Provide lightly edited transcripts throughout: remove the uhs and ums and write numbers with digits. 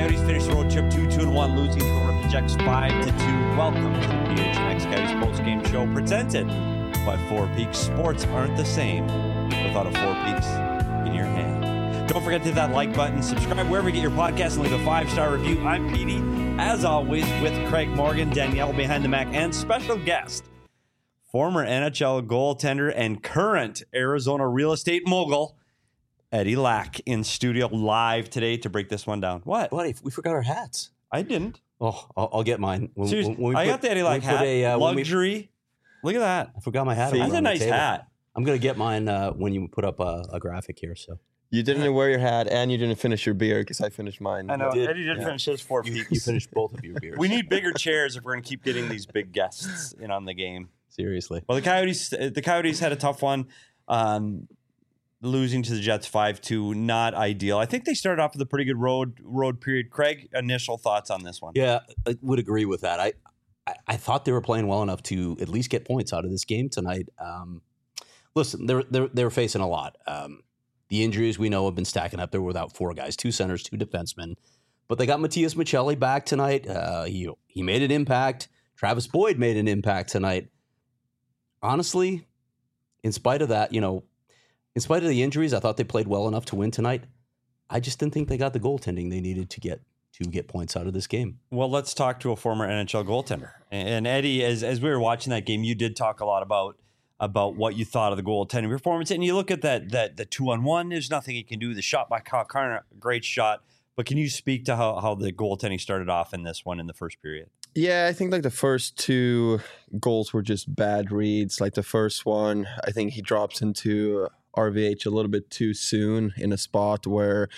Coyotes finished the road trip 2-1, losing to the Winnipeg Jets 5-2. Welcome to the PHNX Coyotes post-game show presented by Four Peaks. Sports aren't the same without a Four Peaks in your hand. Don't forget to hit that like button, subscribe wherever you get your podcast, and leave a 5-star review. I'm Petey, as always, with Craig Morgan, Danielle behind the Mac, and special guest, former NHL goaltender and current Arizona real estate mogul, Eddie Lack, in studio live today to break this one down. What? Buddy, we forgot our hats. I didn't. Oh, I'll get mine. Seriously, I got the Eddie Lack hat. Luxury. Look at that. I forgot my hat. That's a nice hat. I'm going to get mine when you put up a graphic here. So you didn't wear your hat and you didn't finish your beer because I finished mine. I know. Eddie did finish his 4 Peaks. You finished both of your beers. We need bigger chairs if we're going to keep getting these big guests in on the game. Seriously. Well, the Coyotes had a tough one. Losing to the Jets 5-2, not ideal. I think they started off with a pretty good road period. Craig, initial thoughts on this one? Yeah, I would agree with that. I thought they were playing well enough to at least get points out of this game tonight. Listen, they were facing a lot. The injuries we know have been stacking up. They were without four guys, two centers, two defensemen. But they got Matias Maccelli back tonight. He made an impact. Travis Boyd made an impact tonight. Honestly, in spite of that, in spite of the injuries, I thought they played well enough to win tonight. I just didn't think they got the goaltending they needed to get points out of this game. Well, let's talk to a former NHL goaltender. And Eddie, as we were watching that game, you did talk a lot about what you thought of the goaltending performance. And you look at the 2-on-1, there's nothing he can do. The shot by Kyle Connor, great shot. But can you speak to how the goaltending started off in this one in the first period? Yeah, I think the first two goals were just bad reads. Like the first one, I think he drops into RVH a little bit too soon in a spot where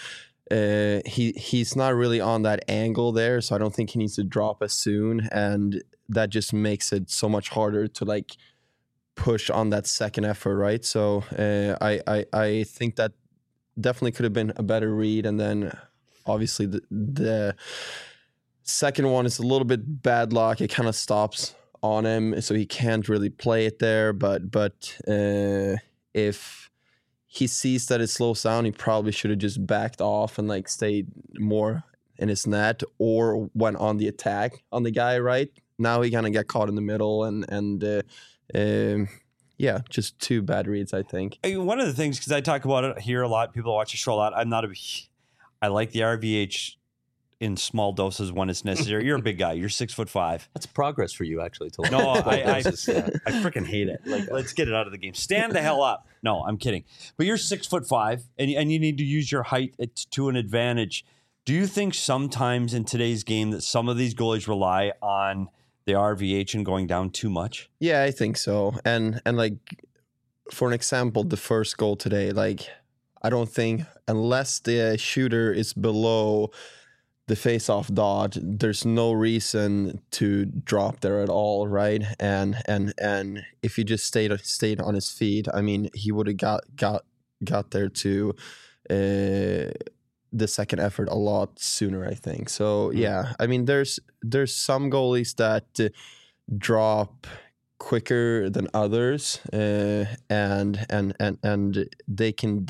he's not really on that angle there, so I don't think he needs to drop as soon, and that just makes it so much harder to push on that second effort, right? So I think that definitely could have been a better read, and then obviously the second one is a little bit bad luck. It kind of stops on him, so he can't really play it there. But if he sees that it slows down, he probably should have just backed off and stayed more in his net or went on the attack on the guy, right? Now he kind of got caught in the middle and just two bad reads, I think. One of the things, because I talk about it here a lot, people watch the show a lot, I like the RVH in small doses when it's necessary. You're a big guy. You're 6'5". That's progress for you, actually. No, I freaking hate it. Let's get it out of the game. Stand the hell up. No, I'm kidding. But you're 6'5", and you need to use your height to an advantage. Do you think sometimes in today's game that some of these goalies rely on the RVH and going down too much? Yeah, I think so. And for an example, the first goal today, I don't think unless the shooter is below the face-off dot, there's no reason to drop there at all, right? And if he just stayed on his feet, I mean, he would have got there to the second effort a lot sooner, I think. So yeah, I mean, there's some goalies that drop quicker than others, and they can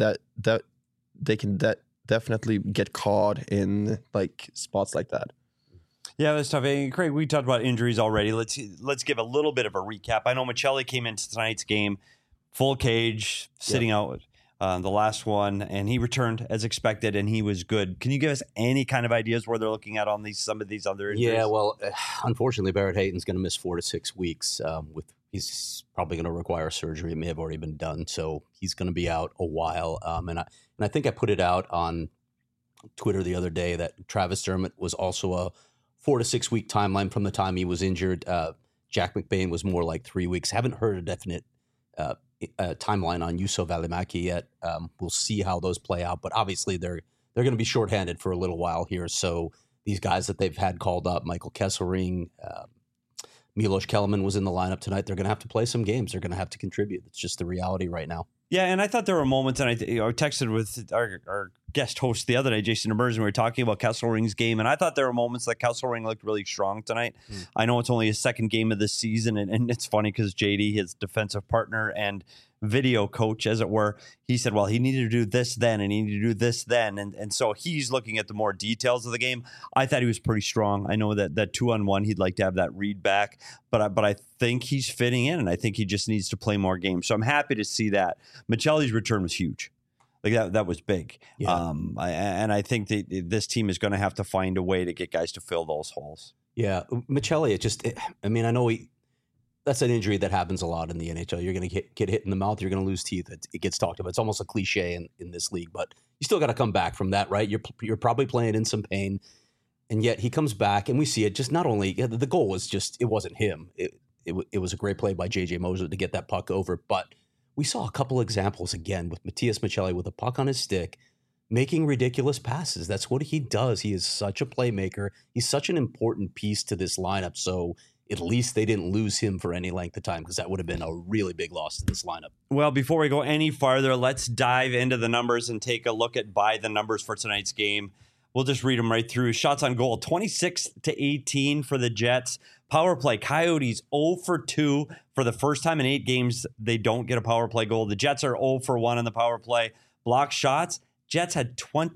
definitely get caught in spots like that. Yeah, that's tough. Hey, Craig, we talked about injuries already. Let's give a little bit of a recap. I know Maccelli came into tonight's game full cage, sitting out the last one, and he returned as expected, and he was good. Can you give us any kind of ideas where they're looking at on some of these other injuries? Yeah, well, unfortunately, Barrett Hayton's going to miss 4 to 6 weeks. He's probably going to require surgery. It may have already been done, so he's going to be out a while. And I think I put it out on Twitter the other day that Travis Dermott was also a 4 to 6 week timeline from the time he was injured. Jack McBain was more like 3 weeks. Haven't heard a definite timeline on Juuso Välimäki yet. We'll see how those play out, but obviously they're going to be shorthanded for a little while here. So these guys that they've had called up, Michael Kesselring, Milos Kellerman was in the lineup tonight. They're going to have to play some games. They're going to have to contribute. It's just the reality right now. Yeah, and I thought there were moments, and I texted with our guest host the other day, Jason Emerson, we were talking about Kesselring's game, and I thought there were moments that Kesselring looked really strong tonight. I know it's only his second game of the season, and it's funny because JD, his defensive partner and video coach, as it were, he said, well, he needed to do this then, and he needed to do this then, and so he's looking at the more details of the game. I thought he was pretty strong. I know that 2-on-1, he'd like to have that read back, but I think he's fitting in, and I think he just needs to play more games. So I'm happy to see that. Michelli's return was huge. Like that was big. Yeah. I think that this team is going to have to find a way to get guys to fill those holes. Yeah. Michelli, I know that's an injury that happens a lot in the NHL. You're going to get hit in the mouth. You're going to lose teeth. It gets talked about. It's almost a cliche in this league, but you still got to come back from that, right? You're probably playing in some pain, and yet he comes back, and we see it. Just not only the goal was just, it wasn't him. It was a great play by JJ Moser to get that puck over, but we saw a couple examples again with Matias Michelli with a puck on his stick, making ridiculous passes. That's what he does. He is such a playmaker. He's such an important piece to this lineup. So at least they didn't lose him for any length of time, because that would have been a really big loss to this lineup. Well, before we go any farther, let's dive into the numbers and take a look at by the numbers for tonight's game. We'll just read them right through. Shots on goal, 26-18 for the Jets. Power play, Coyotes 0 for 2. For the first time in 8 games, they don't get a power play goal. The Jets are 0 for 1 in the power play. Block shots, Jets had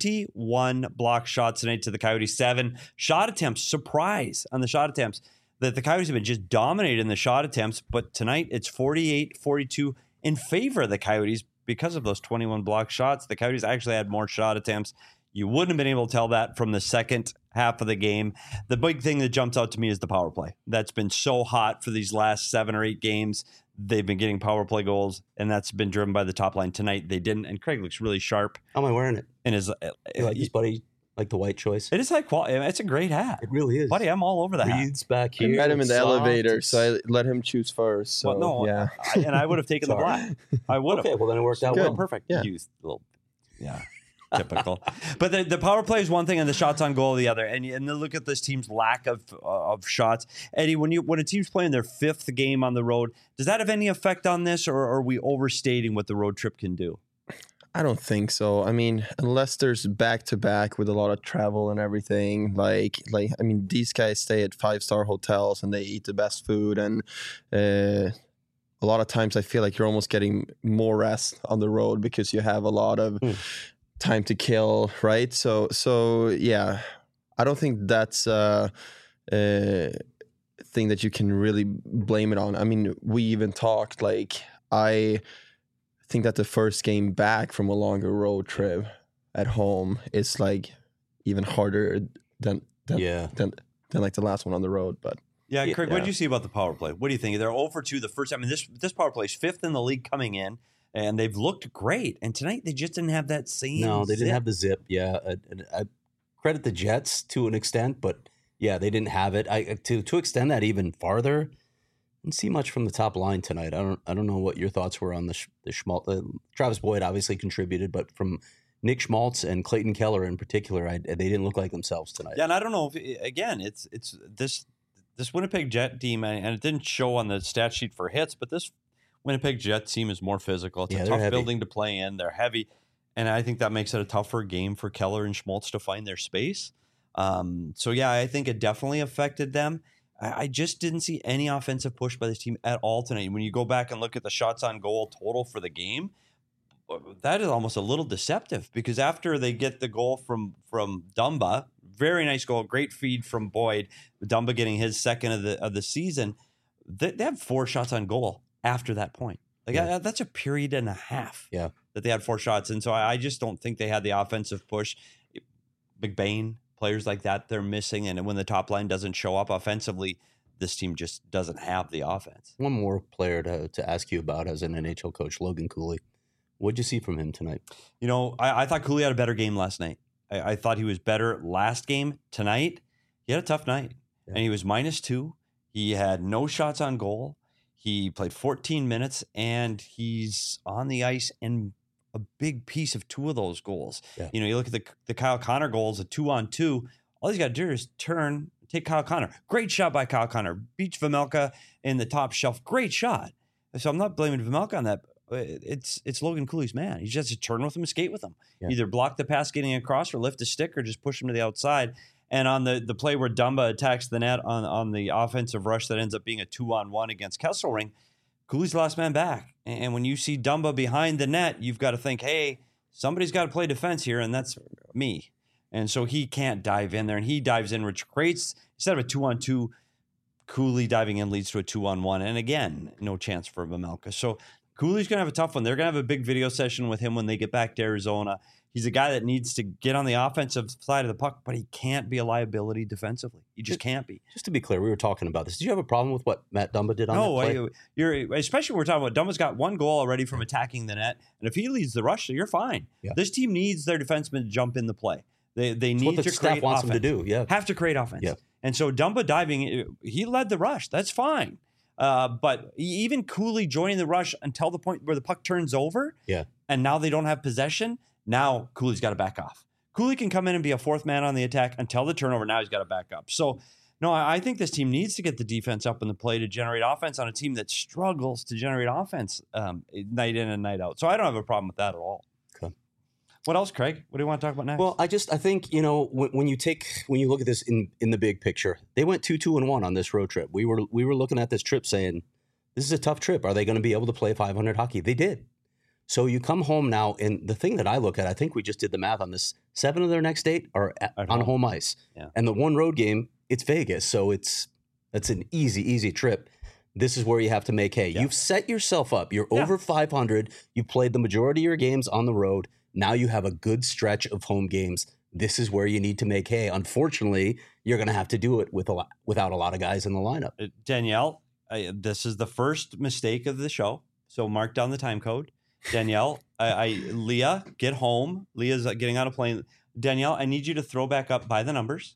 21 block shots tonight to the Coyotes 7. Shot attempts, surprise on the shot attempts. The Coyotes have been just dominated in the shot attempts, but tonight it's 48-42 in favor of the Coyotes because of those 21 block shots. The Coyotes actually had more shot attempts. You wouldn't have been able to tell that from the second half of the game. The big thing that jumps out to me is the power play. That's been so hot for these last 7 or 8 games. They've been getting power play goals, and that's been driven by the top line. Tonight they didn't, and Craig looks really sharp. How am I wearing it? And his buddy, like the white choice. It is high quality. It's a great hat. It really is. Buddy, I'm all over the hat. Reeds back here. I met him in the elevator, so I let him choose first. So, well, no, yeah. And I would have taken the black. I would have. Okay, well then it worked out well. Perfect. Yeah. Yeah. Typical. But the power play is one thing and the shots on goal the other. And then look at this team's lack of shots. Eddie, when a team's playing their 5th game on the road, does that have any effect on this, or are we overstating what the road trip can do? I don't think so. I mean, unless there's back-to-back with a lot of travel and everything, these guys stay at 5-star hotels and they eat the best food, and a lot of times I feel like you're almost getting more rest on the road because you have a lot of time to kill, right? So yeah, I don't think that's a thing that you can really blame it on. I mean, we even talked, I think that the first game back from a longer road trip at home is even harder than the last one on the road. But yeah, Craig, what did you see about the power play? What do you think? They're 0 for 2 the first time. I mean, this power play is 5th in the league coming in. And they've looked great. And tonight they just didn't have that same No, they didn't have the zip. Yeah. I credit the Jets to an extent, but yeah, they didn't have it. To extend that even farther, didn't see much from the top line tonight. I don't know what your thoughts were on the Schmaltz. Travis Boyd obviously contributed, but from Nick Schmaltz and Clayton Keller in particular, they didn't look like themselves tonight. Yeah, and I don't know if, again, it's this Winnipeg Jet team, and it didn't show on the stat sheet for hits, but this Winnipeg Jets team is more physical. It's a tough building to play in. They're heavy, and I think that makes it a tougher game for Keller and Schmaltz to find their space. So, yeah, I think it definitely affected them. I just didn't see any offensive push by this team at all tonight. When you go back and look at the shots on goal total for the game, that is almost a little deceptive, because after they get the goal from Dumba, very nice goal, great feed from Boyd, Dumba getting his second of the season, they have 4 shots on goal after that point. That's a period and a half that they had 4 shots. And so I just don't think they had the offensive push. McBain, players like that, they're missing. And when the top line doesn't show up offensively, this team just doesn't have the offense. One more player to ask you about as an NHL coach, Logan Cooley. What did you see from him tonight? I thought Cooley had a better game last night. I thought he was better last game. Tonight, he had a tough night. Yeah. And he was -2. He had no shots on goal. He played 14 minutes, and he's on the ice in a big piece of 2 of those goals. Yeah. You look at the Kyle Connor goals, a 2-on-2. All he's got to do is take Kyle Connor. Great shot by Kyle Connor. Beats Vejmelka in the top shelf. Great shot. So I'm not blaming Vejmelka on that. it's Logan Cooley's man. He just has to turn with him and skate with him. Yeah. Either block the pass getting across or lift a stick or just push him to the outside. And on the play where Dumba attacks the net on the offensive rush that ends up being a 2-on-1 against Kesselring, Cooley's the last man back. And when you see Dumba behind the net, you've got to think, hey, somebody's got to play defense here, and that's me. And so he can't dive in there, and he dives in, which creates, instead of a 2-on-2, Cooley diving in leads to a 2-on-1. And again, no chance for Vejmelka. So Cooley's going to have a tough one. They're going to have a big video session with him when they get back to Arizona. He's a guy that needs to get on the offensive side of the puck, but he can't be a liability defensively. He just can't be. Just to be clear, we were talking about this. Did you have a problem with what Matt Dumba did on that play? You're especially when we're talking about Dumba's got one goal already from attacking the net, and if he leads the rush, you're fine. Yeah. This team needs their defensemen to jump in the play. They need what the to staff create wants offense. them to do. Yeah, have to create offense. Yeah. And so Dumba diving, he led the rush. That's fine. But even Cooley joining the rush until the point where the puck turns over, and now they don't have possession. Now Cooley's got to back off. Cooley can come in and be a fourth man on the attack until the turnover. Now he's got to back up. So, no, I think this team needs to get the defense up in the play to generate offense on a team that struggles to generate offense night in and night out. So I don't have a problem with that at all. Okay. What else, Craig? What do you want to talk about next? Well, I think, when you look at this in the big picture, they went 2-2-1 on this road trip. We were looking at this trip saying, this is a tough trip. Are they going to be able to play 500 hockey? They did. So you come home now, and the thing that I look at, I think we just did the math on this, 7 of their next 8 are on home ice. Yeah. And the one road game, it's Vegas. So it's an easy trip. This is where you have to make hay. Yeah. You've set yourself up. You're over 500. You've played the majority of your games on the road. Now you have a good stretch of home games. This is where you need to make hay. Unfortunately, you're going to have to do it without a lot of guys in the lineup. Danielle, this is the first mistake of the show. So mark down the time code. Danielle, Leah, get home. Leah's getting on a plane. Danielle, I need you to throw back up By the Numbers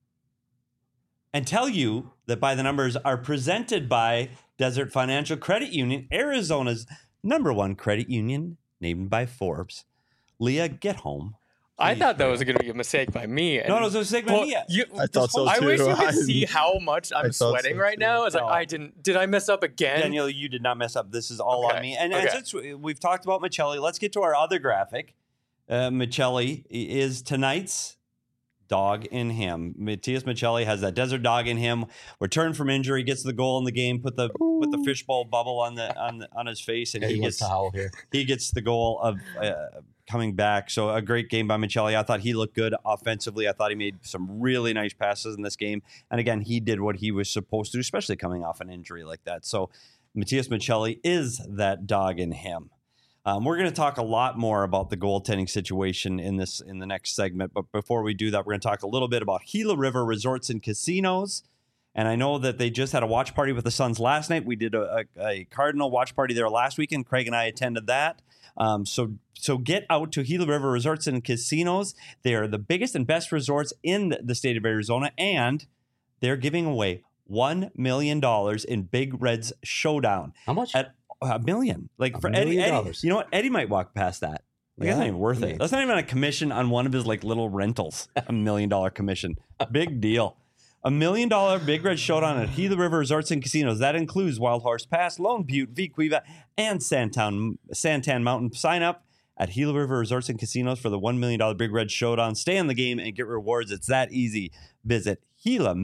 and tell you that By the Numbers are presented by Desert Financial Credit Union, Arizona's #1 credit union, named by Forbes. Leah, get home. I thought that was going to be a mistake by me. No, it was a mistake by me. I thought so too. I wish you could see how much I'm sweating right now. I was like, did I mess up again? Daniel, you did not mess up. This is all on me. And since we've talked about Michelli, let's get to our other graphic. Michelli is tonight's dog in him. Matias Michelli has that desert dog in him. Returned from injury, gets the goal in the game, put the fishbowl bubble on his face, and he gets the howl here. He gets the goal of coming back. So a great game by Michelli. I thought he looked good offensively. I thought he made some really nice passes in this game. And again, he did what he was supposed to do, especially coming off an injury like that. So Matias Michelli is that dog in him. We're going to talk a lot more about the goaltending situation in the next segment. But before we do that, we're going to talk a little bit about Gila River Resorts and Casinos. And I know that they just had a watch party with the Suns last night. We did a Cardinal watch party there last weekend. Craig and I attended that. So get out to Gila River Resorts and Casinos. They are the biggest and best resorts in the state of Arizona, and they're giving away $1 million in Big Red's Showdown. How much? At $1 million. Like for Eddie, you know what? Eddie might walk past that. Like, that's not even worth it. That's not even a commission on one of his little rentals. $1 million commission. Big deal. $1 million Big Red Showdown at Gila River Resorts and Casinos. That includes Wild Horse Pass, Lone Butte, Vicuiva, and Santan Mountain. Sign up at Gila River Resorts and Casinos for the $1 million Big Red Showdown. Stay in the game and get rewards. It's that easy. Visit Gila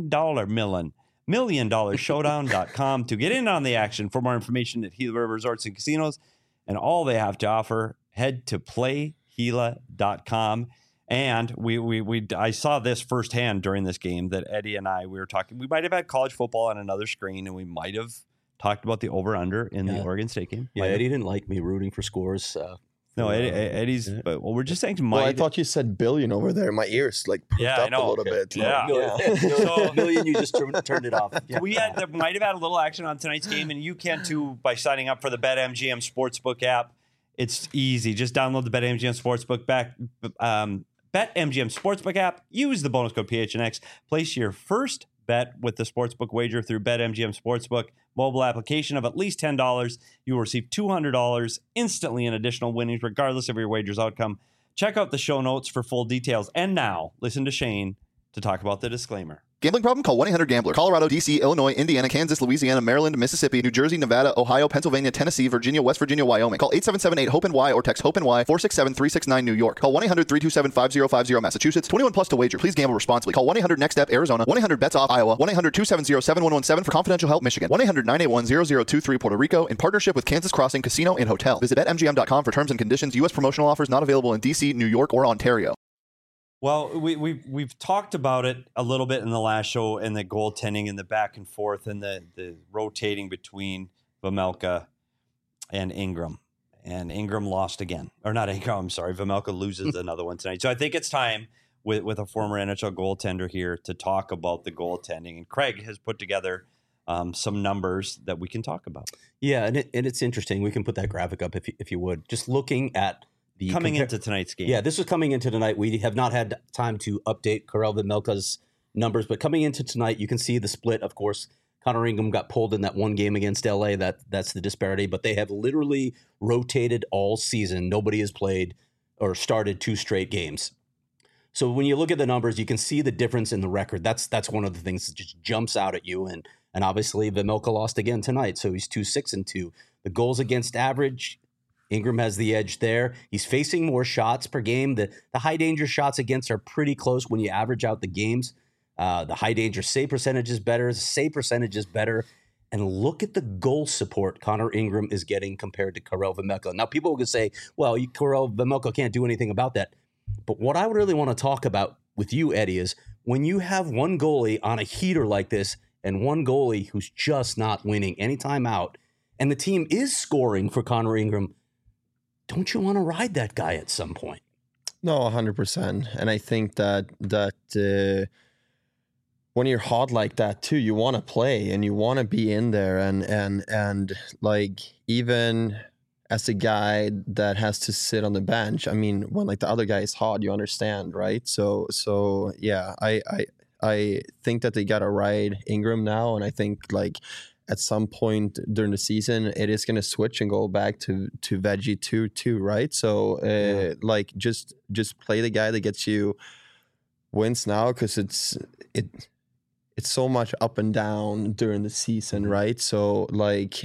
$1,000,000showdown.com to get in on the action. For more information at Gila River Resorts and Casinos and all they have to offer, head to playgila.com. And I saw this firsthand during this game that Eddie and I, we were talking. We might have had college football on another screen, and we might have talked about the over-under in the Oregon State game. Yeah, Eddie didn't like me rooting for scores. No, Eddie's. Yeah. But we're just saying. Well, I thought you said billion over there. My ears perked up a little bit. Yeah. So million, you just turned it off. Yeah. There might have had a little action on tonight's game, and you can too by signing up for the BetMGM Sportsbook app. It's easy. Just download the BetMGM Sportsbook BetMGM Sportsbook app. Use the bonus code PHNX. Place your first bet with the sportsbook wager through BetMGM Sportsbook mobile application of at least $10. You will receive $200 instantly in additional winnings, regardless of your wager's outcome. Check out the show notes for full details. And now, listen to Shane to talk about the disclaimer. Gambling problem? Call 1-800-GAMBLER. Colorado, D.C., Illinois, Indiana, Kansas, Louisiana, Maryland, Mississippi, New Jersey, Nevada, Ohio, Pennsylvania, Tennessee, Virginia, West Virginia, Wyoming. Call 877-8-HOPE-NY or text HOPE-NY 467-369 New York. Call 1-800-327-5050 Massachusetts. 21 plus to wager. Please gamble responsibly. Call 1-800-NEXT-STEP Arizona. 1-800-BETS-OFF Iowa. 1-800-270-7117 for confidential help Michigan. 1-800-981-0023 Puerto Rico in partnership with Kansas Crossing Casino and Hotel. Visit BetMGM.com for terms and conditions. U.S. promotional offers not available in D.C., New York, or Ontario. Well, we've talked about it a little bit in the last show, and the goaltending and the back and forth and the rotating between Vejmelka and Ingram. And Ingram lost again. Or not Ingram, I'm sorry. Vejmelka loses another one tonight. So I think it's time with a former NHL goaltender here to talk about the goaltending. And Craig has put together some numbers that we can talk about. Yeah, and it's interesting. We can put that graphic up if you would. Just looking at into tonight's game. Yeah, this was coming into tonight. We have not had time to update Karel Vejmelka's numbers, but coming into tonight, you can see the split. Of course, Connor Ingram got pulled in that one game against LA. That's the disparity, but they have literally rotated all season. Nobody has played or started 2 straight games. So when you look at the numbers, you can see the difference in the record. That's one of the things that just jumps out at you. And obviously, Vejmelka lost again tonight, so he's 2-6-2. The goals against average, Ingram has the edge there. He's facing more shots per game. The high danger shots against are pretty close when you average out the games. The high danger save percentage is better. The save percentage is better. And look at the goal support Connor Ingram is getting compared to Karel Vejmelka. Now, people will say, well, Karel Vejmelka can't do anything about that. But what I would really want to talk about with you, Eddie, is when you have one goalie on a heater like this and one goalie who's just not winning any time out, and the team is scoring for Connor Ingram, don't you want to ride that guy at some point? No, 100%. And I think that when you're hot like that too, you want to play and you want to be in there. And like, even as a guy that has to sit on the bench, I mean, when like the other guy is hot, you understand, right? So yeah, I think that they got to ride Ingram now. And I think like at some point during the season, it is going to switch and go back to Veggie too, right? So like just play the guy that gets you wins now, because it's so much up and down during the season, right? So like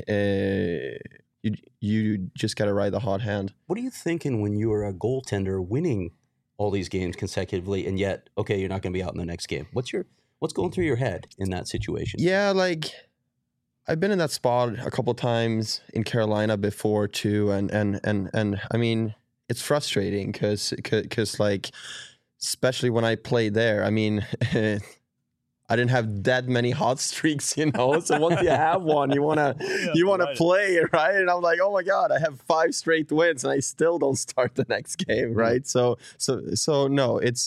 you just got to ride the hot hand. What are you thinking when you are a goaltender winning all these games consecutively, and yet, okay, you're not going to be out in the next game? What's going through your head in that situation? Yeah, like I've been in that spot a couple times in Carolina before too, and I mean, it's frustrating because like, especially when I played there, I mean, I didn't have that many hot streaks, you know. So once you have one, you wanna play, right? And I'm like, oh my god, I have 5 straight wins, and I still don't start the next game, right? So no, it's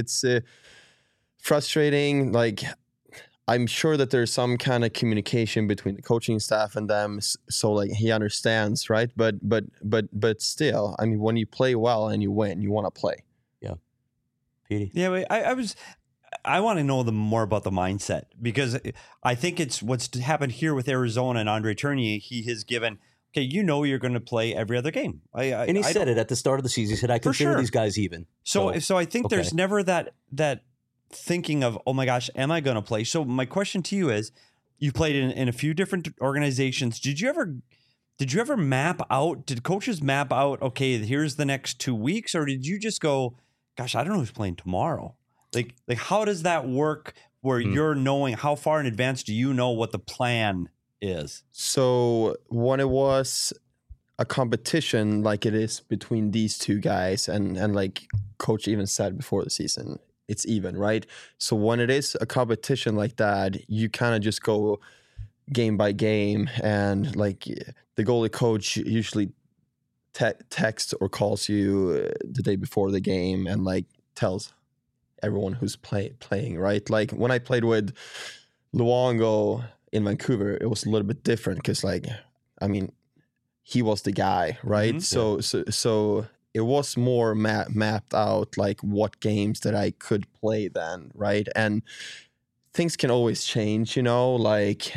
frustrating. Like, I'm sure that there's some kind of communication between the coaching staff and them, so like he understands, right? But still, I mean, when you play well and you win, you want to play. Yeah, Petey. Yeah, I want to know more about the mindset, because I think it's what's happened here with Arizona and Andre Tournier. He has given, okay, you're going to play every other game. And he said it at the start of the season. He said, I consider these guys even. So I think there's never that thinking of, oh my gosh, am I going to play? So my question to you is, you played in a few different organizations. Did you ever map out, did coaches map out, okay, here's the next 2 weeks? Or did you just go, gosh, I don't know who's playing tomorrow? Like how does that work where you're knowing, how far in advance do you know what the plan is? So when it was a competition like it is between these two guys, and like coach even said before the season, it's even, right? So when it is a competition like that, you kind of just go game by game, and like the goalie coach usually texts or calls you the day before the game and like tells everyone who's playing, right? Like when I played with Luongo in Vancouver, it was a little bit different because, like, I mean, he was the guy, right? Mm-hmm. So it was more mapped out, like what games that I could play then, right? And things can always change, you know. Like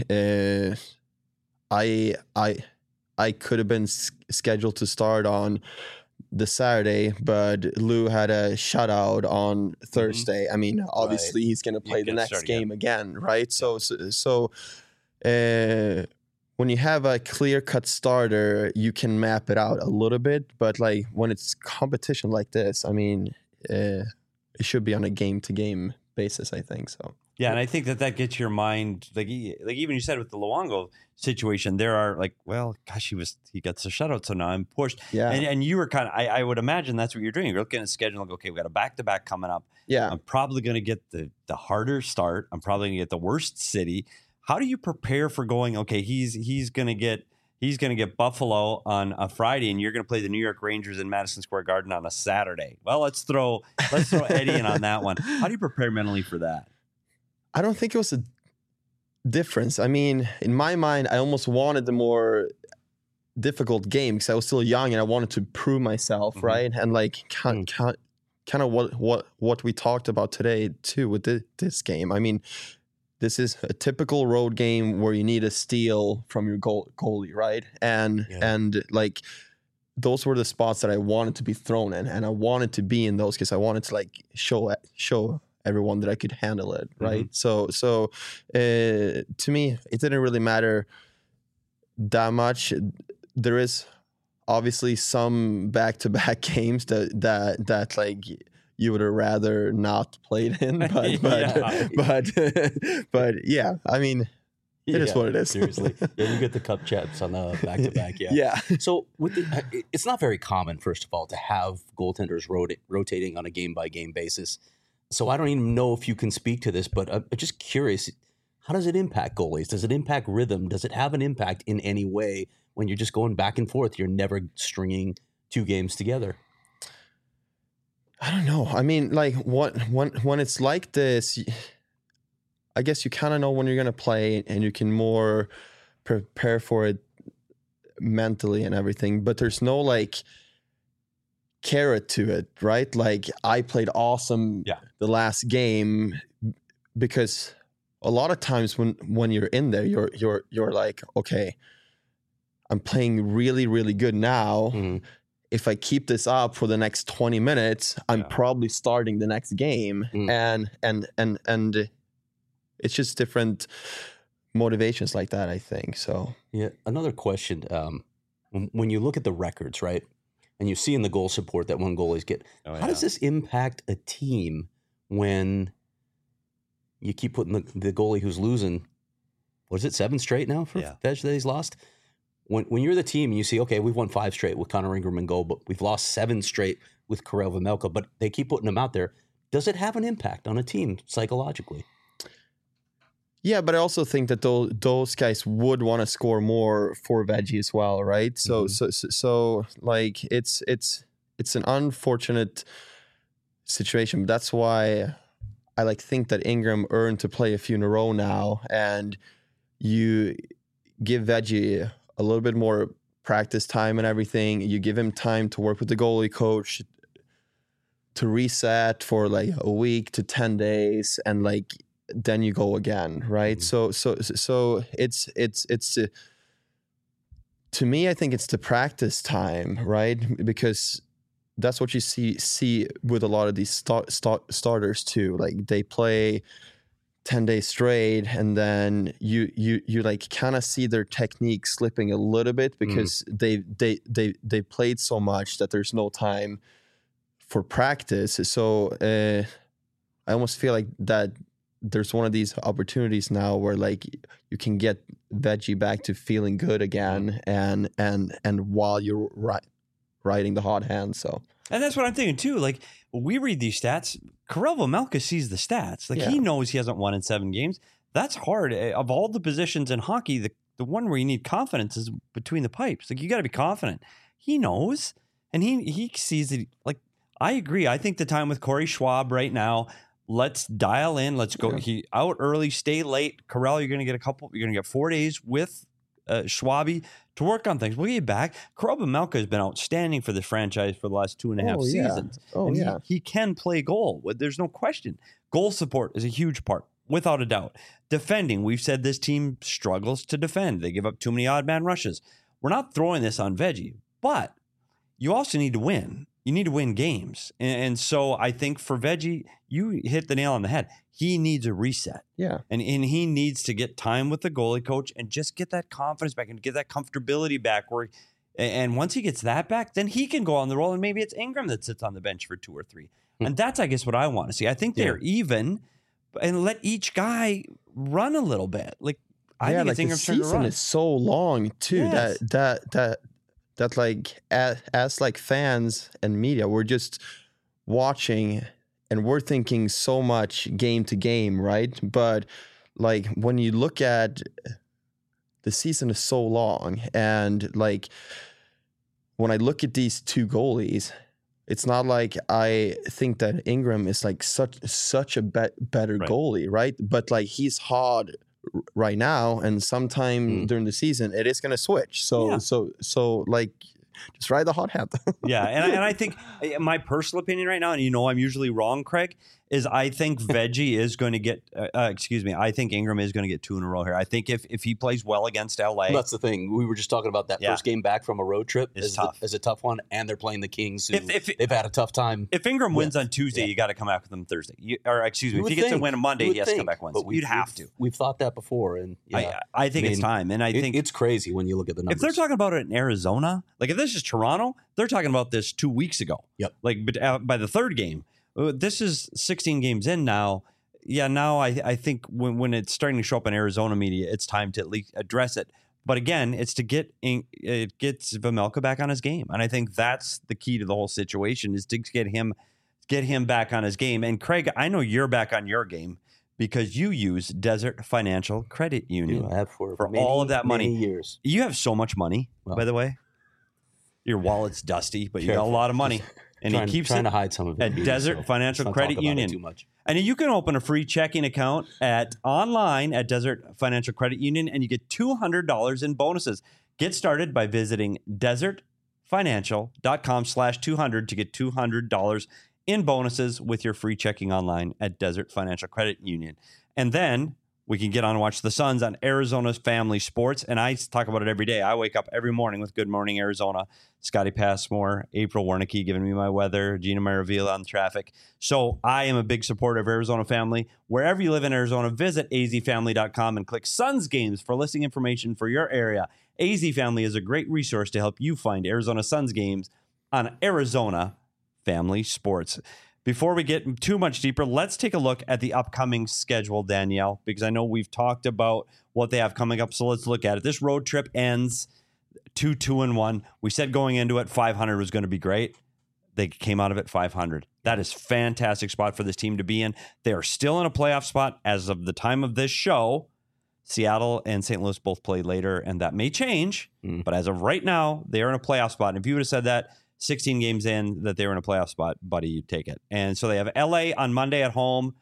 I could have been scheduled to start on the Saturday, but Lou had a shutout on Thursday. I mean, obviously he's going to play the next game again, right? So when you have a clear-cut starter, you can map it out a little bit. But like when it's competition like this, I mean, it should be on a game-to-game basis, I think. So yeah, and I think that gets your mind like even you said with the Luongo situation, there are like, well, gosh, he gets the shutout, so now I'm pushed. Yeah, and you were kind of I would imagine that's what you're doing. You're looking at a schedule and like, okay, we got a back-to-back coming up. Yeah, I'm probably going to get the harder start. I'm probably going to get the worst city. How do you prepare for going? Okay, he's going to get Buffalo on a Friday, and you're going to play the New York Rangers in Madison Square Garden on a Saturday. Well, let's throw Eddie in on that one. How do you prepare mentally for that? I don't think it was a difference. I mean, in my mind, I almost wanted the more difficult game because I was still young and I wanted to prove myself, right? And like kind of what we talked about today too with this game. I mean, this is a typical road game where you need a steal from your goalie, right? And like those were the spots that I wanted to be thrown in, and I wanted to be in those because I wanted to like show everyone that I could handle it, right? So to me, it didn't really matter that much. There is obviously some back-to-back games that like you would have rather not played in, but yeah, I mean, it is what it is. Seriously, yeah, you get the cup champs on the back-to-back. Yeah. So it's not very common, first of all, to have goaltenders rotating on a game-by-game basis. So I don't even know if you can speak to this, but I'm just curious, how does it impact goalies? Does it impact rhythm? Does it have an impact in any way when you're just going back and forth? You're never stringing two games together. I don't know. I mean, like when it's like this, I guess you kind of know when you're going to play and you can more prepare for it mentally and everything, but there's no like carrot to it, right? Like I played awesome the last game because a lot of times when you're in there, you're like, okay, I'm playing really, really good now. Mm-hmm. If I keep this up for the next 20 minutes, I'm probably starting the next game. And it's just different motivations like that, I think. So yeah. Another question. When you look at the records, right? And you see in the goal support that one goalies get, how does this impact a team when you keep putting the goalie who's losing, what is it, 7 straight now for Veg that he's lost? When you're the team and you see, okay, we've won 5 straight with Connor Ingram in goal, but we've lost 7 straight with Karel Vejmelka, but they keep putting them out there. Does it have an impact on a team psychologically? Yeah, but I also think that those guys would want to score more for Veggie as well, right? So like it's an unfortunate situation. But that's why I like think that Ingram earned to play a few in a row now, and you give Veggie a little bit more practice time and everything. You give him time to work with the goalie coach, to reset for like a week to 10 days, and like then you go again, right? So it's to me, I think it's the practice time, right? Because that's what you see with a lot of these starters too. Like they play 10 days straight, and then you like kind of see their technique slipping a little bit because they played so much that there's no time for practice. So I almost feel like that there's one of these opportunities now where like you can get Veggie back to feeling good again, and while you're riding the hot hand. So, and that's what I'm thinking too. Like we read these stats, Karel Vejmelka sees the stats. Like he knows he hasn't won in 7 games. That's hard. Of all the positions in hockey, the one where you need confidence is between the pipes. Like you got to be confident. He knows, and he sees it. Like I agree. I think the time with Corey Schwab right now. Let's dial in. Let's go. He out early, stay late. Karel, you're going to get 4 days with Schwabi to work on things. We'll get you back. Karel Vejmelka has been outstanding for this franchise for the last 2.5 seasons. He can play goal. There's no question. Goal support is a huge part, without a doubt. Defending, we've said this team struggles to defend. They give up too many odd man rushes. We're not throwing this on Veggie, but you also need to win. You need to win games. And so I think for Veggie, you hit the nail on the head. He needs a reset. Yeah. And he needs to get time with the goalie coach and just get that confidence back and get that comfortability back. And once he gets that back, then he can go on the roll. And maybe it's Ingram that sits on the bench for 2 or 3. And that's, I guess, what I want to see. I think they're even, and let each guy run a little bit. Like, I think it's Ingram's turn to run. The season is so long too Yes. that like as like fans and media, we're just watching and we're thinking so much game to game, right? But like when you look at the season is so long, and like when I look at these two goalies, it's not like I think that Ingram is like such a better goalie, right? But like he's hard right now, and sometime during the season it is going to switch. So like just ride the hot hand. Yeah, and I think my personal opinion right now, and I'm usually wrong, Craig, is I think Veggie is going to get, I think Ingram is going to get 2 in a row here. I think if he plays well against LA. Well, that's the thing. We were just talking about that first game back from a road trip is a tough one, and they're playing the Kings, who they've had a tough time. If Ingram wins on Tuesday, you got to come back with him Thursday. If he gets a win on Monday, he has to come back Wednesday. You'd have to. We've thought that before, and I think it's time. And I think it's crazy when you look at the numbers. If they're talking about it in Arizona, like if this is Toronto, they're talking about this 2 weeks ago. Yep. Like by the third game. This is 16 games in now. Yeah, now I think when it's starting to show up in Arizona media, it's time to at least address it. But again, it's to get Vejmelka back on his game, and I think that's the key to the whole situation is to get him back on his game. And Craig, I know you're back on your game because you use Desert Financial Credit Union I have for all of that money. Many years. You have so much money, by the way. Your wallet's dusty, but you got a lot of money. And he keeps trying to hide some of it. At Desert Financial Credit Union. Too much. And you can open a free checking account online at Desert Financial Credit Union, and you get $200 in bonuses. Get started by visiting desertfinancial.com/200 to get $200 in bonuses with your free checking online at Desert Financial Credit Union. And then we can get on and watch the Suns on Arizona's Family Sports. And I talk about it every day. I wake up every morning with Good Morning Arizona. Scotty Passmore, April Wernicke giving me my weather, Gina Maravilla on traffic. So I am a big supporter of Arizona Family. Wherever you live in Arizona, visit azfamily.com and click Suns Games for listing information for your area. AZ Family is a great resource to help you find Arizona Suns games on Arizona Family Sports. Before we get too much deeper, let's take a look at the upcoming schedule, Danielle, because I know we've talked about what they have coming up. So let's look at it. This road trip ends 2-2-1. We said going into it, 500 was going to be great. They came out of it 500. That is fantastic spot for this team to be in. They are still in a playoff spot as of the time of this show. Seattle and St. Louis both play later, and that may change. But as of right now, they are in a playoff spot. And if you would have said that 16 games in that they were in a playoff spot, buddy, you take it. And so they have LA on Monday at home,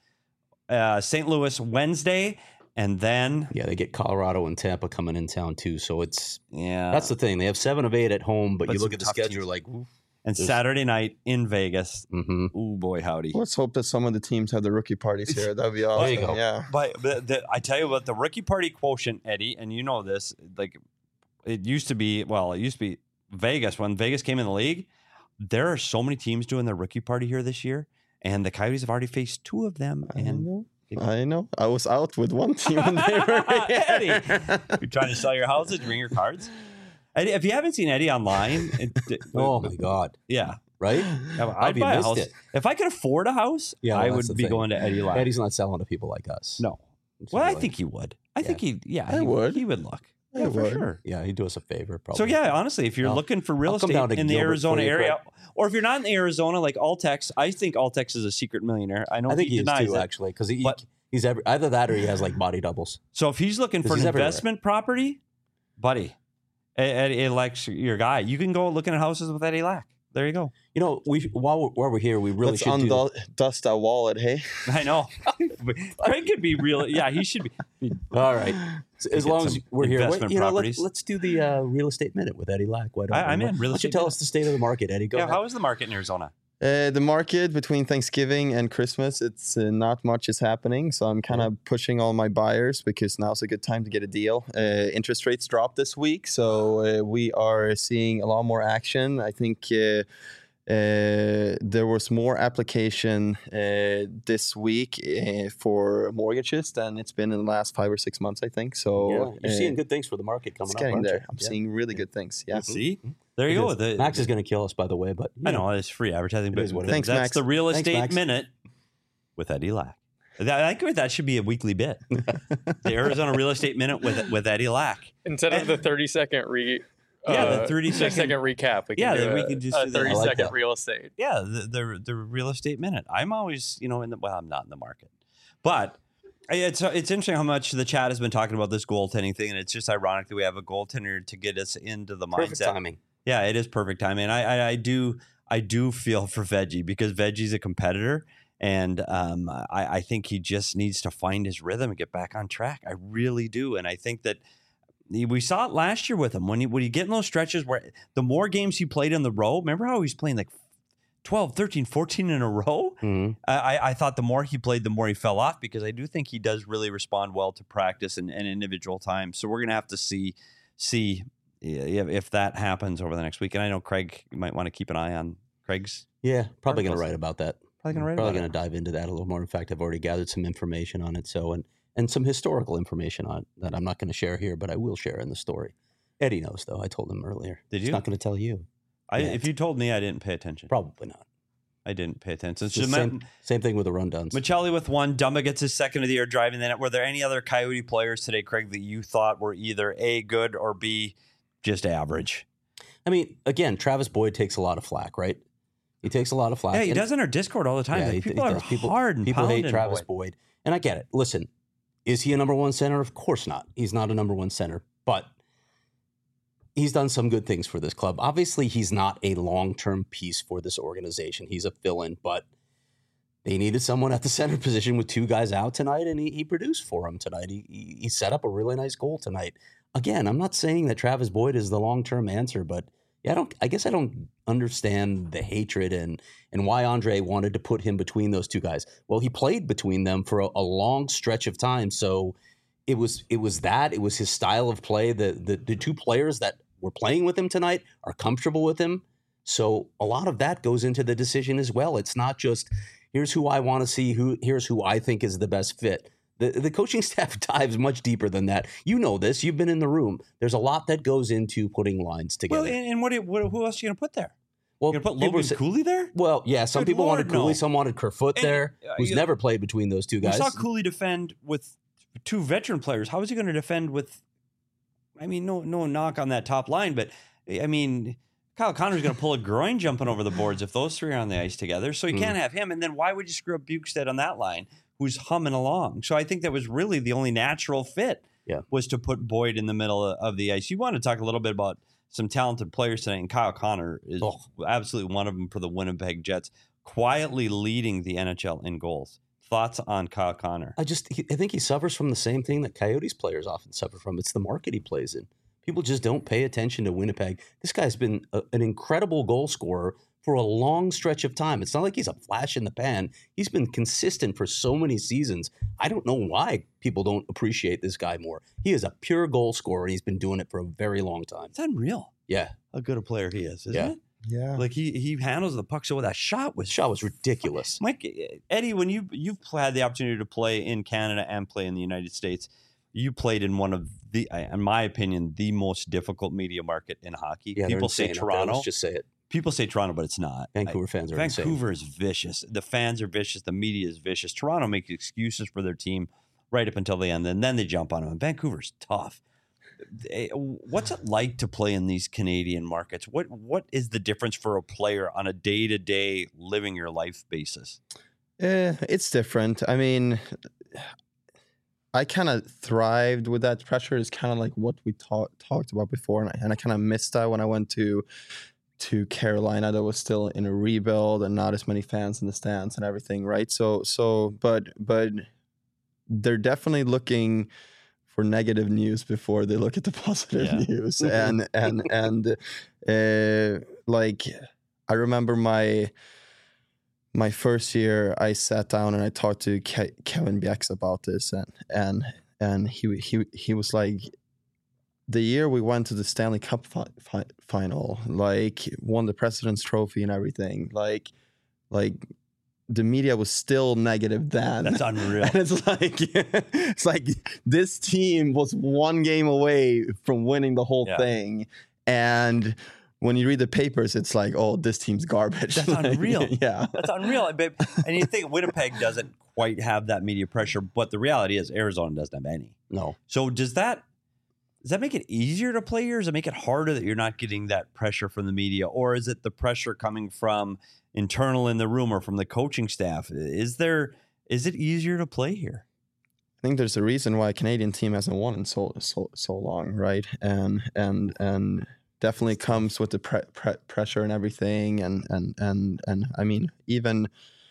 St. Louis Wednesday, and then they get Colorado and Tampa coming in town too. So that's the thing. They have 7 of 8 at home, but you look at the schedule, you're like, oof. And Saturday night in Vegas. Ooh, boy, howdy. Let's hope that some of the teams have the rookie parties here. That'd be awesome. There you go. Yeah. But I tell you what, the rookie party quotient, Eddie, and you know this, like it used to be Vegas. When Vegas came in the league, there are so many teams doing their rookie party here this year, and the Coyotes have already faced 2 of them. I know. I was out with one team when they were Eddie, you're trying to sell your houses, bring your cards. Eddie, if you haven't seen Eddie online, oh my God, yeah, right? I'd buy a house if I could afford a house. I would be going to Eddie Lack. Eddie's not selling to people like us. No. Well, I think he would. I think he would. He would look. Yeah, for sure. Yeah, he'd do us a favor, probably. So, honestly, if you're looking for real estate in the Arizona area, or if you're not in Arizona, like Altex, I think Altex is a secret millionaire. I think he denies is too, actually, because he's either that or he has like body doubles. So if he's looking for an investment property, buddy, Eddie Lack's your guy. You can go looking at houses with Eddie Lack. There you go. While we're here, we really should dust that wallet, hey? I know. Craig could be real. Yeah, he should be. All right. As long as we're here, let's do the real estate minute with Eddie Lack. I'm in real estate. Why don't you tell us the state of the market, Eddie? Go ahead. How is the market in Arizona? The market between Thanksgiving and Christmas, it's not much is happening. So I'm kind of pushing all my buyers because now's a good time to get a deal. Interest rates dropped this week, so we are seeing a lot more action. I think there was more application this week for mortgages than it's been in the last 5 or 6 months, I think. So you're seeing good things for the market coming it's up. getting there. You? I'm seeing really good things. Yeah. See, there you go. Max is going to kill us, by the way, but I know it's free advertising, but Thanks, that's Max. the real estate Max. minute with Eddie Lack. I think that should be a weekly bit. The Arizona Real Estate Minute with Eddie Lack. Instead of the 30-second the 30-second recap. We Yeah, can do we can just a do that. I 30-second like real estate. Yeah, the real estate minute. I'm always, I'm not in the market, but it's interesting how much the chat has been talking about this goaltending thing, and it's just ironic that we have a goaltender to get us into the perfect mindset. timing. Yeah, it is perfect timing. I do feel for Veggie because Veggie's a competitor, and I think he just needs to find his rhythm and get back on track. I really do, and I think that. We saw it last year with him when you get in those stretches where the more games he played in the row, remember how he was playing like 12, 13, 14 in a row? Mm-hmm. I thought the more he played, the more he fell off because I do think he does really respond well to practice and individual time. So we're going to have to see if that happens over the next week. And I know Craig, you might want to keep an eye on Craig's. Yeah, probably going to write about that. Probably going to dive into that a little more. In fact, I've already gathered some information on it. So, and some historical information on it that I'm not going to share here, but I will share in the story. Eddie knows, though. I told him earlier. Did you? He's not going to tell you. If you told me, I didn't pay attention. Probably not. I didn't pay attention. It's the same thing with the rundowns. Machelli with 1. Dumba gets his second of the year driving the net. Were there any other Coyote players today, Craig, that you thought were either A, good, or B, just average? I mean, again, Travis Boyd takes a lot of flack, right? He takes a lot of flack. Yeah, he does in our Discord all the time. Yeah, people are people, hard and people hate pounding Travis Boyd. And I get it. Listen, is he a number one center? Of course not. He's not a number one center, but he's done some good things for this club. Obviously, he's not a long-term piece for this organization. He's a fill-in, but they needed someone at the center position with 2 guys out tonight, and he produced for them tonight. He set up a really nice goal tonight. Again, I'm not saying that Travis Boyd is the long-term answer, but yeah, I guess I don't understand the hatred and why Andre wanted to put him between those 2 guys. Well, he played between them for a long stretch of time, so it was his style of play. The 2 players that were playing with him tonight are comfortable with him, so a lot of that goes into the decision as well. It's not just here's who I want to see, here's who I think is the best fit. The coaching staff dives much deeper than that. You know this. You've been in the room. There's a lot that goes into putting lines together. Well, and who else are you going to put there? Well, you going to put Logan Cooley there? Well, yeah. Some people wanted Cooley. No. Some wanted Kerfoot there, who's never played between those 2 guys. We saw Cooley defend with 2 veteran players. How is he going to defend with? I mean, no knock on that top line, but I mean, Kyle Connor's going to pull a groin jumping over the boards if those 3 are on the ice together. So you can't have him. And then why would you screw up Bukestad on that line, who's humming along? So I think that was really the only natural fit. Yeah. Was to put Boyd in the middle of the ice. You want to talk a little bit about some talented players tonight, and Kyle Connor is absolutely one of them for the Winnipeg Jets, quietly leading the NHL in goals. Thoughts on Kyle Connor? I think he suffers from the same thing that Coyotes players often suffer from. It's the market he plays in. People just don't pay attention to Winnipeg. This guy's been an incredible goal scorer for a long stretch of time. It's not like he's a flash in the pan. He's been consistent for so many seasons. I don't know why people don't appreciate this guy more. He is a pure goal scorer, and he's been doing it for a very long time. It's unreal. Yeah. How good a player he is, isn't it? Yeah. Like he handles the puck so well. That shot was ridiculous. Mike, Eddie, when you've had the opportunity to play in Canada and play in the United States, you played in one of the, in my opinion, the most difficult media market in hockey. Yeah, people say Toronto. Let's just say it. People say Toronto, but it's not. Vancouver fans are insane. Vancouver is vicious. The fans are vicious. The media is vicious. Toronto makes excuses for their team right up until the end, and then they jump on them. And Vancouver's tough. What's it like to play in these Canadian markets? What is the difference for a player on a day-to-day living your life basis? It's different. I mean, I kind of thrived with that pressure. Is kind of like what we talked about before, and I kind of missed that when I went to Carolina. That was still in a rebuild and not as many fans in the stands and everything, right? But they're definitely looking for negative news before they look at the positive news. And like I remember my first year, I sat down and I talked to Kevin Bjeks about this, and he was like, the year we went to the Stanley Cup final, like won the President's Trophy and everything, like the media was still negative then. That's unreal. And it's like this team was one game away from winning the whole thing, and when you read the papers, it's like, oh, this team's garbage. That's unreal. Yeah. That's unreal. And you think Winnipeg doesn't quite have that media pressure, but the reality is Arizona doesn't have any. No. So does that make it easier to play here? Does it make it harder that you're not getting that pressure from the media? Or is it the pressure coming from internal in the room or from the coaching staff? Is it easier to play here? I think there's a reason why a Canadian team hasn't won in so long, right? And definitely comes with the pressure and everything, and I mean, even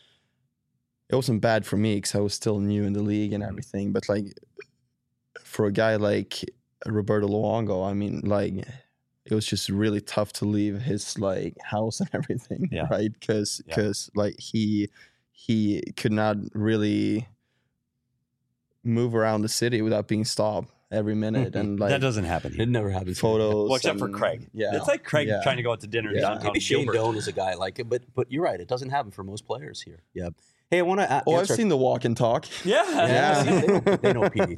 it wasn't bad for me because I was still new in the league and everything, but like for a guy like Roberto Luongo, I mean, like it was just really tough to leave his like house and everything, right? Because like he could not really move around the city without being stopped every minute, and like that doesn't happen here. It never happens. Photos, well, except for Craig. Yeah, it's like Craig trying to go out to dinner downtown. Maybe Shane Doan is a guy like it, but you're right. It doesn't happen for most players here. Yeah. Hey, I want to. I've seen the walk and talk. Yeah. They know PD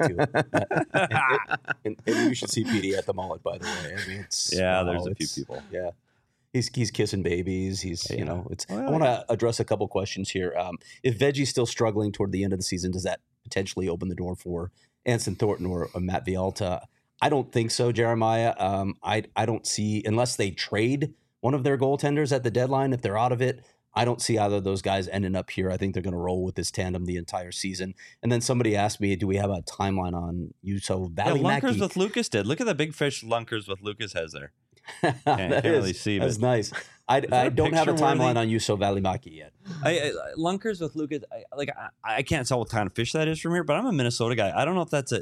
too. And you should see PD at the mullet, by the way. I mean, there's a few people. Yeah. He's kissing babies. He's I want to address a couple questions here. If Veggie's still struggling toward the end of the season, does that potentially open the door for Anson Thornton or Matt Villalta? I don't think so, Jeremiah. I don't see, unless they trade one of their goaltenders at the deadline, if they're out of it, I don't see either of those guys ending up here. I think they're going to roll with this tandem the entire season. And then somebody asked me, do we have a timeline on Juuso Välimäki? Lunkers with Lucas did. Look at the big fish Lunkers with Lucas has there. Can't really see. That's nice. I don't have a timeline on Juuso Välimäki yet. Lunkers with Lucas, I can't tell what kind of fish that is from here, but I'm a Minnesota guy. I don't know if that's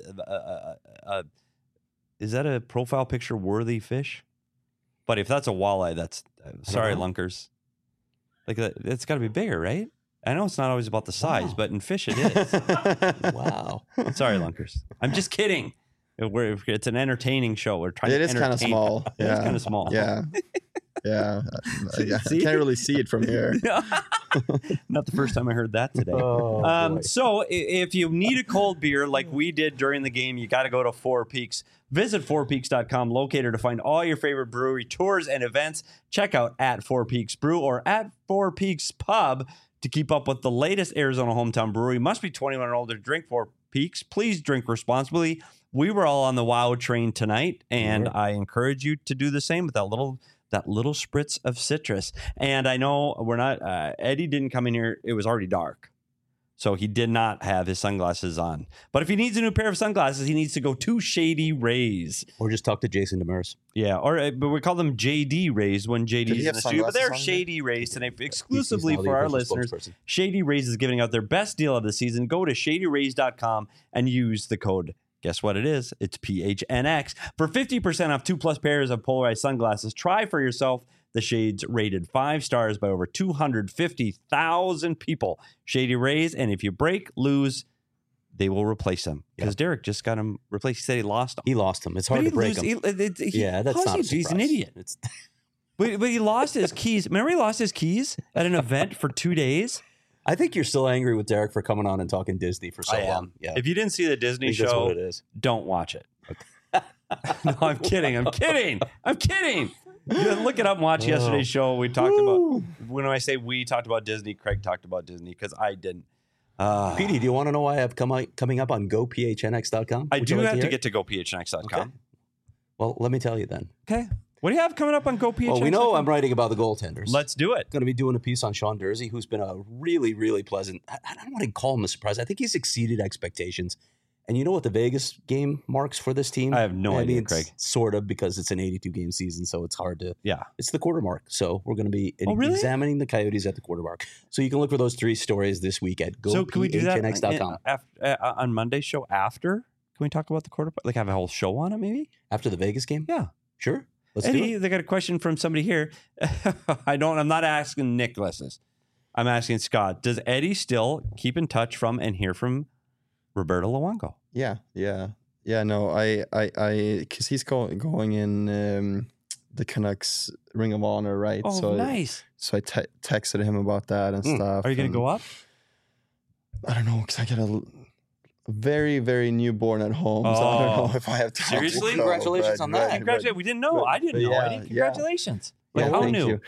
is that a profile picture worthy fish? But if that's a walleye, that's sorry, Lunkers. Like it's got to be bigger, right? I know it's not always about the size, but in fish it is. Wow. Sorry, Lunkers. I'm just kidding. It's an entertaining show. We're trying. It to is kind of small. It is kind of small. Yeah. Yeah. I can't really see it from here. Not the first time I heard that today. So if you need a cold beer like we did during the game, you got to go to Four Peaks. Visit fourpeaks.com, locator, to find all your favorite brewery tours and events. Check out at Four Peaks Brew or at Four Peaks Pub to keep up with the latest Arizona hometown brewery. Must be 21 or older to drink Four Peaks. Please drink responsibly. We were all on the WOW train tonight, and I encourage you to do the same with that little spritz of citrus. And I know we're not, Eddie didn't come in here. It was already dark. So he did not have his sunglasses on. But if he needs a new pair of sunglasses, he needs to go to Shady Rays. Or just talk to Jason Demers. Yeah, but we call them JD Rays when JD's in the studio. But they're Shady Rays today exclusively for our listeners. Shady Rays is giving out their best deal of the season. Go to shadyrays.com and use the code. Guess what it is? It's PHNX. For 50% off 2+ pairs of polarized sunglasses, try for yourself the shades rated 5 stars by over 250,000 people. Shady Rays, and if you lose, they will replace them. Because Derek just got them replaced. He said he lost them. He lost them. It's hard to break them. That's not a surprise. He's an idiot. But he lost his keys. Remember he lost his keys at an event for 2 days? I think you're still angry with Derek for coming on and talking Disney for so long. Yeah. If you didn't see the Disney show, that's what it is. Don't watch it. No, I'm kidding. You look it up and watch yesterday's show. We talked about, when I say we talked about Disney, Craig talked about Disney because I didn't. Petey, do you want to know why I have coming up on gophnx.com? I do have to get to gophnx.com. Okay. Well, let me tell you then. Okay. What do you have coming up on gophnx.com? Well, we know I'm writing about the goaltenders. Let's do it. Going to be doing a piece on Sean Durzi, who's been a really, really pleasant. I don't want to call him a surprise. I think he's exceeded expectations. And you know what the Vegas game marks for this team? I have no idea, Craig. Sort of, because it's an 82-game season, so it's hard to... Yeah. It's the quarter mark. So we're going to be examining the Coyotes at the quarter mark. So you can look for those 3 stories this week at gophnx.com. So can we do that on Monday's show after? Can we talk about the quarter? Like have a whole show on it maybe? After the Vegas game? Yeah. Sure. Let's Eddie, do it. They got a question from somebody here. I'm not asking Nicholas this. I'm asking Scott, does Eddie still keep in touch from and hear from Roberto Luongo? Yeah. No, I, because he's going in the Canucks Ring of Honor, right? Oh, so nice. So I texted him about that and stuff. Are you going to go up? I don't know, because I got a very, very newborn at home, so I don't know if I have time. Seriously? to go, Congratulations on that. Congratulations. We didn't know. I didn't know, yeah, Eddie. Congratulations. Yeah, How thank new? you.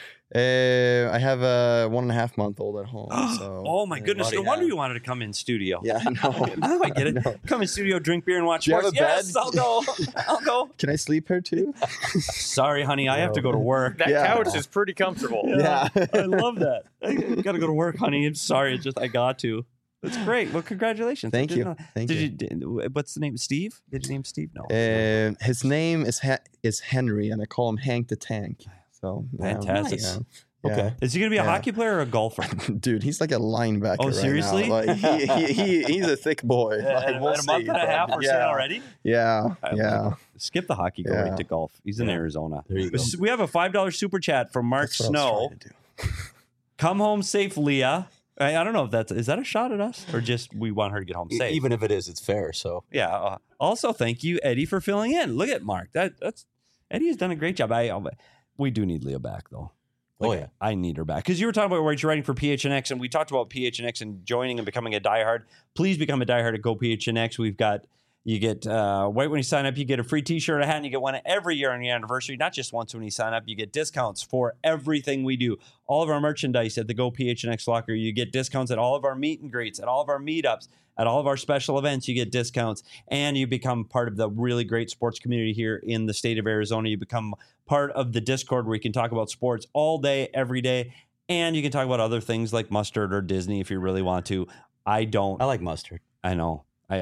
I have a 1.5-month-old at home. So Oh my goodness! No yeah. wonder you wanted to come in studio. Yeah, I know. Now I get it. No. Come in studio, drink beer, and watch Do you have sports. a bed? Yes, I'll go. I'll go. Can I sleep here too? Sorry, honey, I have to go to work. That Yeah. couch is pretty comfortable. Yeah. I love that. I gotta go to work, honey. I'm sorry. It's just I got to. That's great. Well, congratulations. Thank I didn't you. know- Thank you. What's the name? Steve? Did you name Steve? No. His name is Henry, and I call him Hank the Tank. So Fantastic. Yeah. Okay. Is he gonna be a Yeah. hockey player or a golfer? Dude, he's like a linebacker. Oh, right seriously? now. Like he's a thick boy. Like, in we'll a month see, and a but half, we're seeing already. Yeah, yeah. Skip the hockey, go Yeah. right to golf. He's in Yeah. Arizona. There you go. We have a $5 super chat from Mark That's what I was Snow. trying to do. Come home safe, Leah. I don't know if is that a shot at us or just we want her to get home safe. Even if it is, it's fair. So Yeah. Also, thank you, Eddie, for filling in. Look at Mark. That's Eddie has done a great job. We do need Leah back though. Oh, yeah. I need her back because you were talking about where you're writing for PHNX, and we talked about PHNX and joining and becoming a diehard. Please become a diehard at Go PHNX. You get right when you sign up, you get a free T-shirt, a hat, and you get one every year on your anniversary. Not just once when you sign up. You get discounts for everything we do. All of our merchandise at the Go PHNX locker. You get discounts at all of our meet and greets, at all of our meetups, at all of our special events. You get discounts, and you become part of the really great sports community here in the state of Arizona. You become part of the Discord where you can talk about sports all day, every day, and you can talk about other things like mustard or Disney if you really want to. I don't. I like mustard, I know. I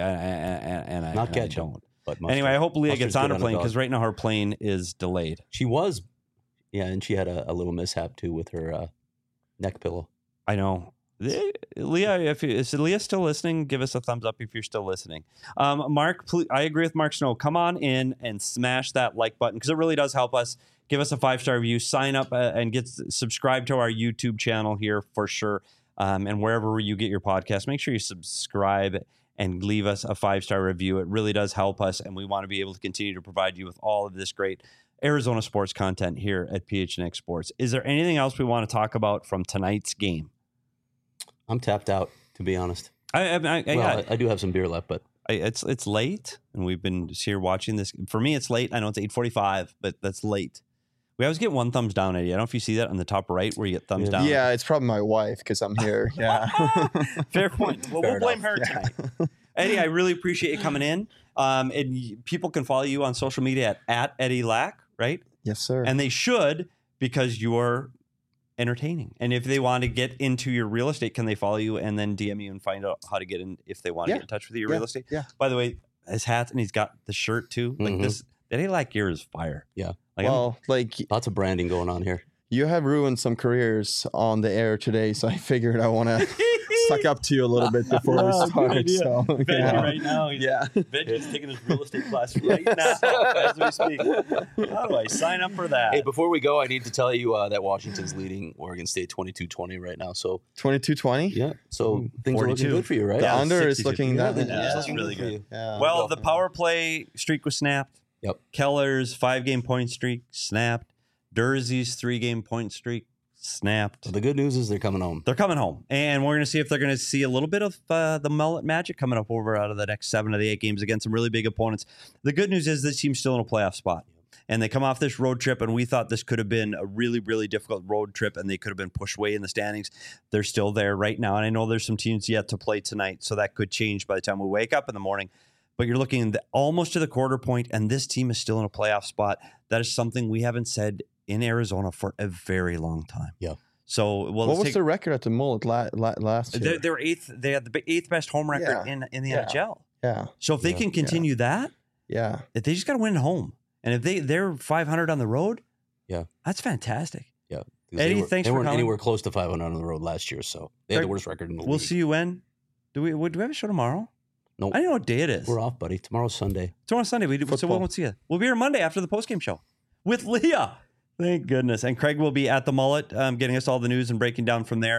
not ketchup. don't. But mustard. Anyway, I hope Leah Mustard's gets on good her on a plane dog. because right now her plane is delayed. She was, yeah, and she had a little mishap too with her neck pillow. I know. Leah, is Leah still listening? Give us a thumbs up if you're still listening. Mark, I agree with Mark Snow. Come on in and smash that like button because it really does help us. Give us a 5-star review. Sign up and subscribe to our YouTube channel here for sure. And wherever you get your podcast, make sure you subscribe and leave us a 5-star review. It really does help us, and we want to be able to continue to provide you with all of this great Arizona sports content here at PHNX Sports. Is there anything else we want to talk about from tonight's game? I'm tapped out, to be honest. I I do have some beer left, but it's late, and we've been just here watching this. For me, it's late. I know it's 8:45, but that's late. We always get one thumbs down, Eddie. I don't know if you see that on the top right where you get thumbs down. Yeah, it's probably my wife because I'm here. Yeah. Fair point. Well, Fair we'll blame enough. her tonight. Eddie, I really appreciate you coming in. And people can follow you on social media at Eddie Lack, right? Yes, sir. And they should because you're entertaining. And if they want to get into your real estate, can they follow you and then DM you and find out how to get in if they want to Yeah. get in touch with you, Yeah. real estate? Yeah. By the way, his hat and he's got the shirt too. Like Mhm. this, Eddie Lack gear is fire. Yeah. Like well, like lots of branding going on here. you have ruined some careers on the air today, so I figured I want to suck up to you a little bit before we Oh, good start. idea. So, Benji yeah. right now. Yeah. Benji's taking his real estate class right now as we speak. How do I sign up for that? Hey, before we go, I need to tell you that Washington's leading Oregon State 22-20 right now. So 22-20. yeah, so things are 42. looking good for you, right? The Yeah, under is 60. looking that. Yeah, that's looking really for good. you. Yeah. Well, the power play streak was snapped. Yep. Keller's 5-game point streak snapped. Durzee's 3-game point streak snapped. So the good news is they're coming home. They're coming home, and we're going to see if they're going to see a little bit of the mullet magic coming up over out of the next 7 of the 8 games against some really big opponents. The good news is this team's still in a playoff spot, and they come off this road trip, and we thought this could have been a really, really difficult road trip, and they could have been pushed way in the standings. They're still there right now, and I know there's some teams yet to play tonight, so that could change by the time we wake up in the morning. But you're looking almost to the quarter point, and this team is still in a playoff spot. That is something we haven't said in Arizona for a very long time. Yeah. So, well, What was the record at the mullet last year? they're eighth. They had the 8th best home record Yeah. in the Yeah. NHL. Yeah. So if they Yeah. can continue that, Yeah. if they just got to win at home, and if they're 500 on the road, Yeah. that's fantastic. Yeah. Eddie, thanks they for weren't coming. anywhere close to 500 on the road last year, so they had Craig, the worst record in the We'll league. see you when. Do we have a show tomorrow? Nope. I don't know what day it is. We're off, buddy. Tomorrow's Sunday. Tomorrow's Sunday. So we Football. won't see you. We'll be here Monday after the postgame show with Leah. Thank goodness. And Craig will be at the mullet, getting us all the news and breaking down from there.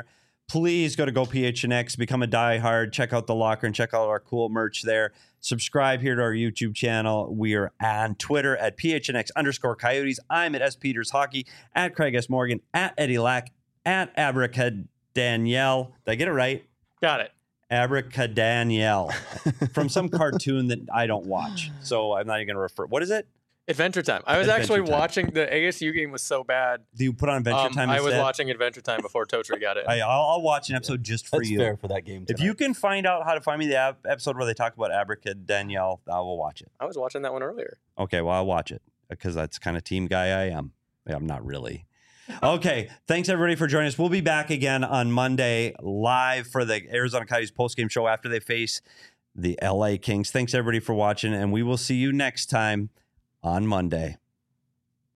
Please go to GoPHNX, become a diehard, check out the locker and check out our cool merch there. Subscribe here to our YouTube channel. We are on Twitter at PHNX_Coyotes. I'm at S. Peters Hockey, at Craig S. Morgan, at Eddie Lack, at Abracadaniel. Did I get it right? Got it. Abracadaniel from some cartoon that I don't watch. So I'm not even going to refer. What is it? Adventure Time. I was Adventure actually Time. watching the ASU game was so bad. Do you put on Adventure Time I was instead? watching Adventure Time before Totri got it. I'll watch an episode just for That's you. fair for that game. If you can find out how to find me the episode where they talk about Abracadaniel, I will watch it. I was watching that one earlier. Okay, well, I'll watch it because that's the kind of team guy I am. I'm not really. Okay, thanks everybody for joining us. We'll be back again on Monday live for the Arizona Coyotes postgame show after they face the LA Kings. Thanks everybody for watching, and we will see you next time on Monday.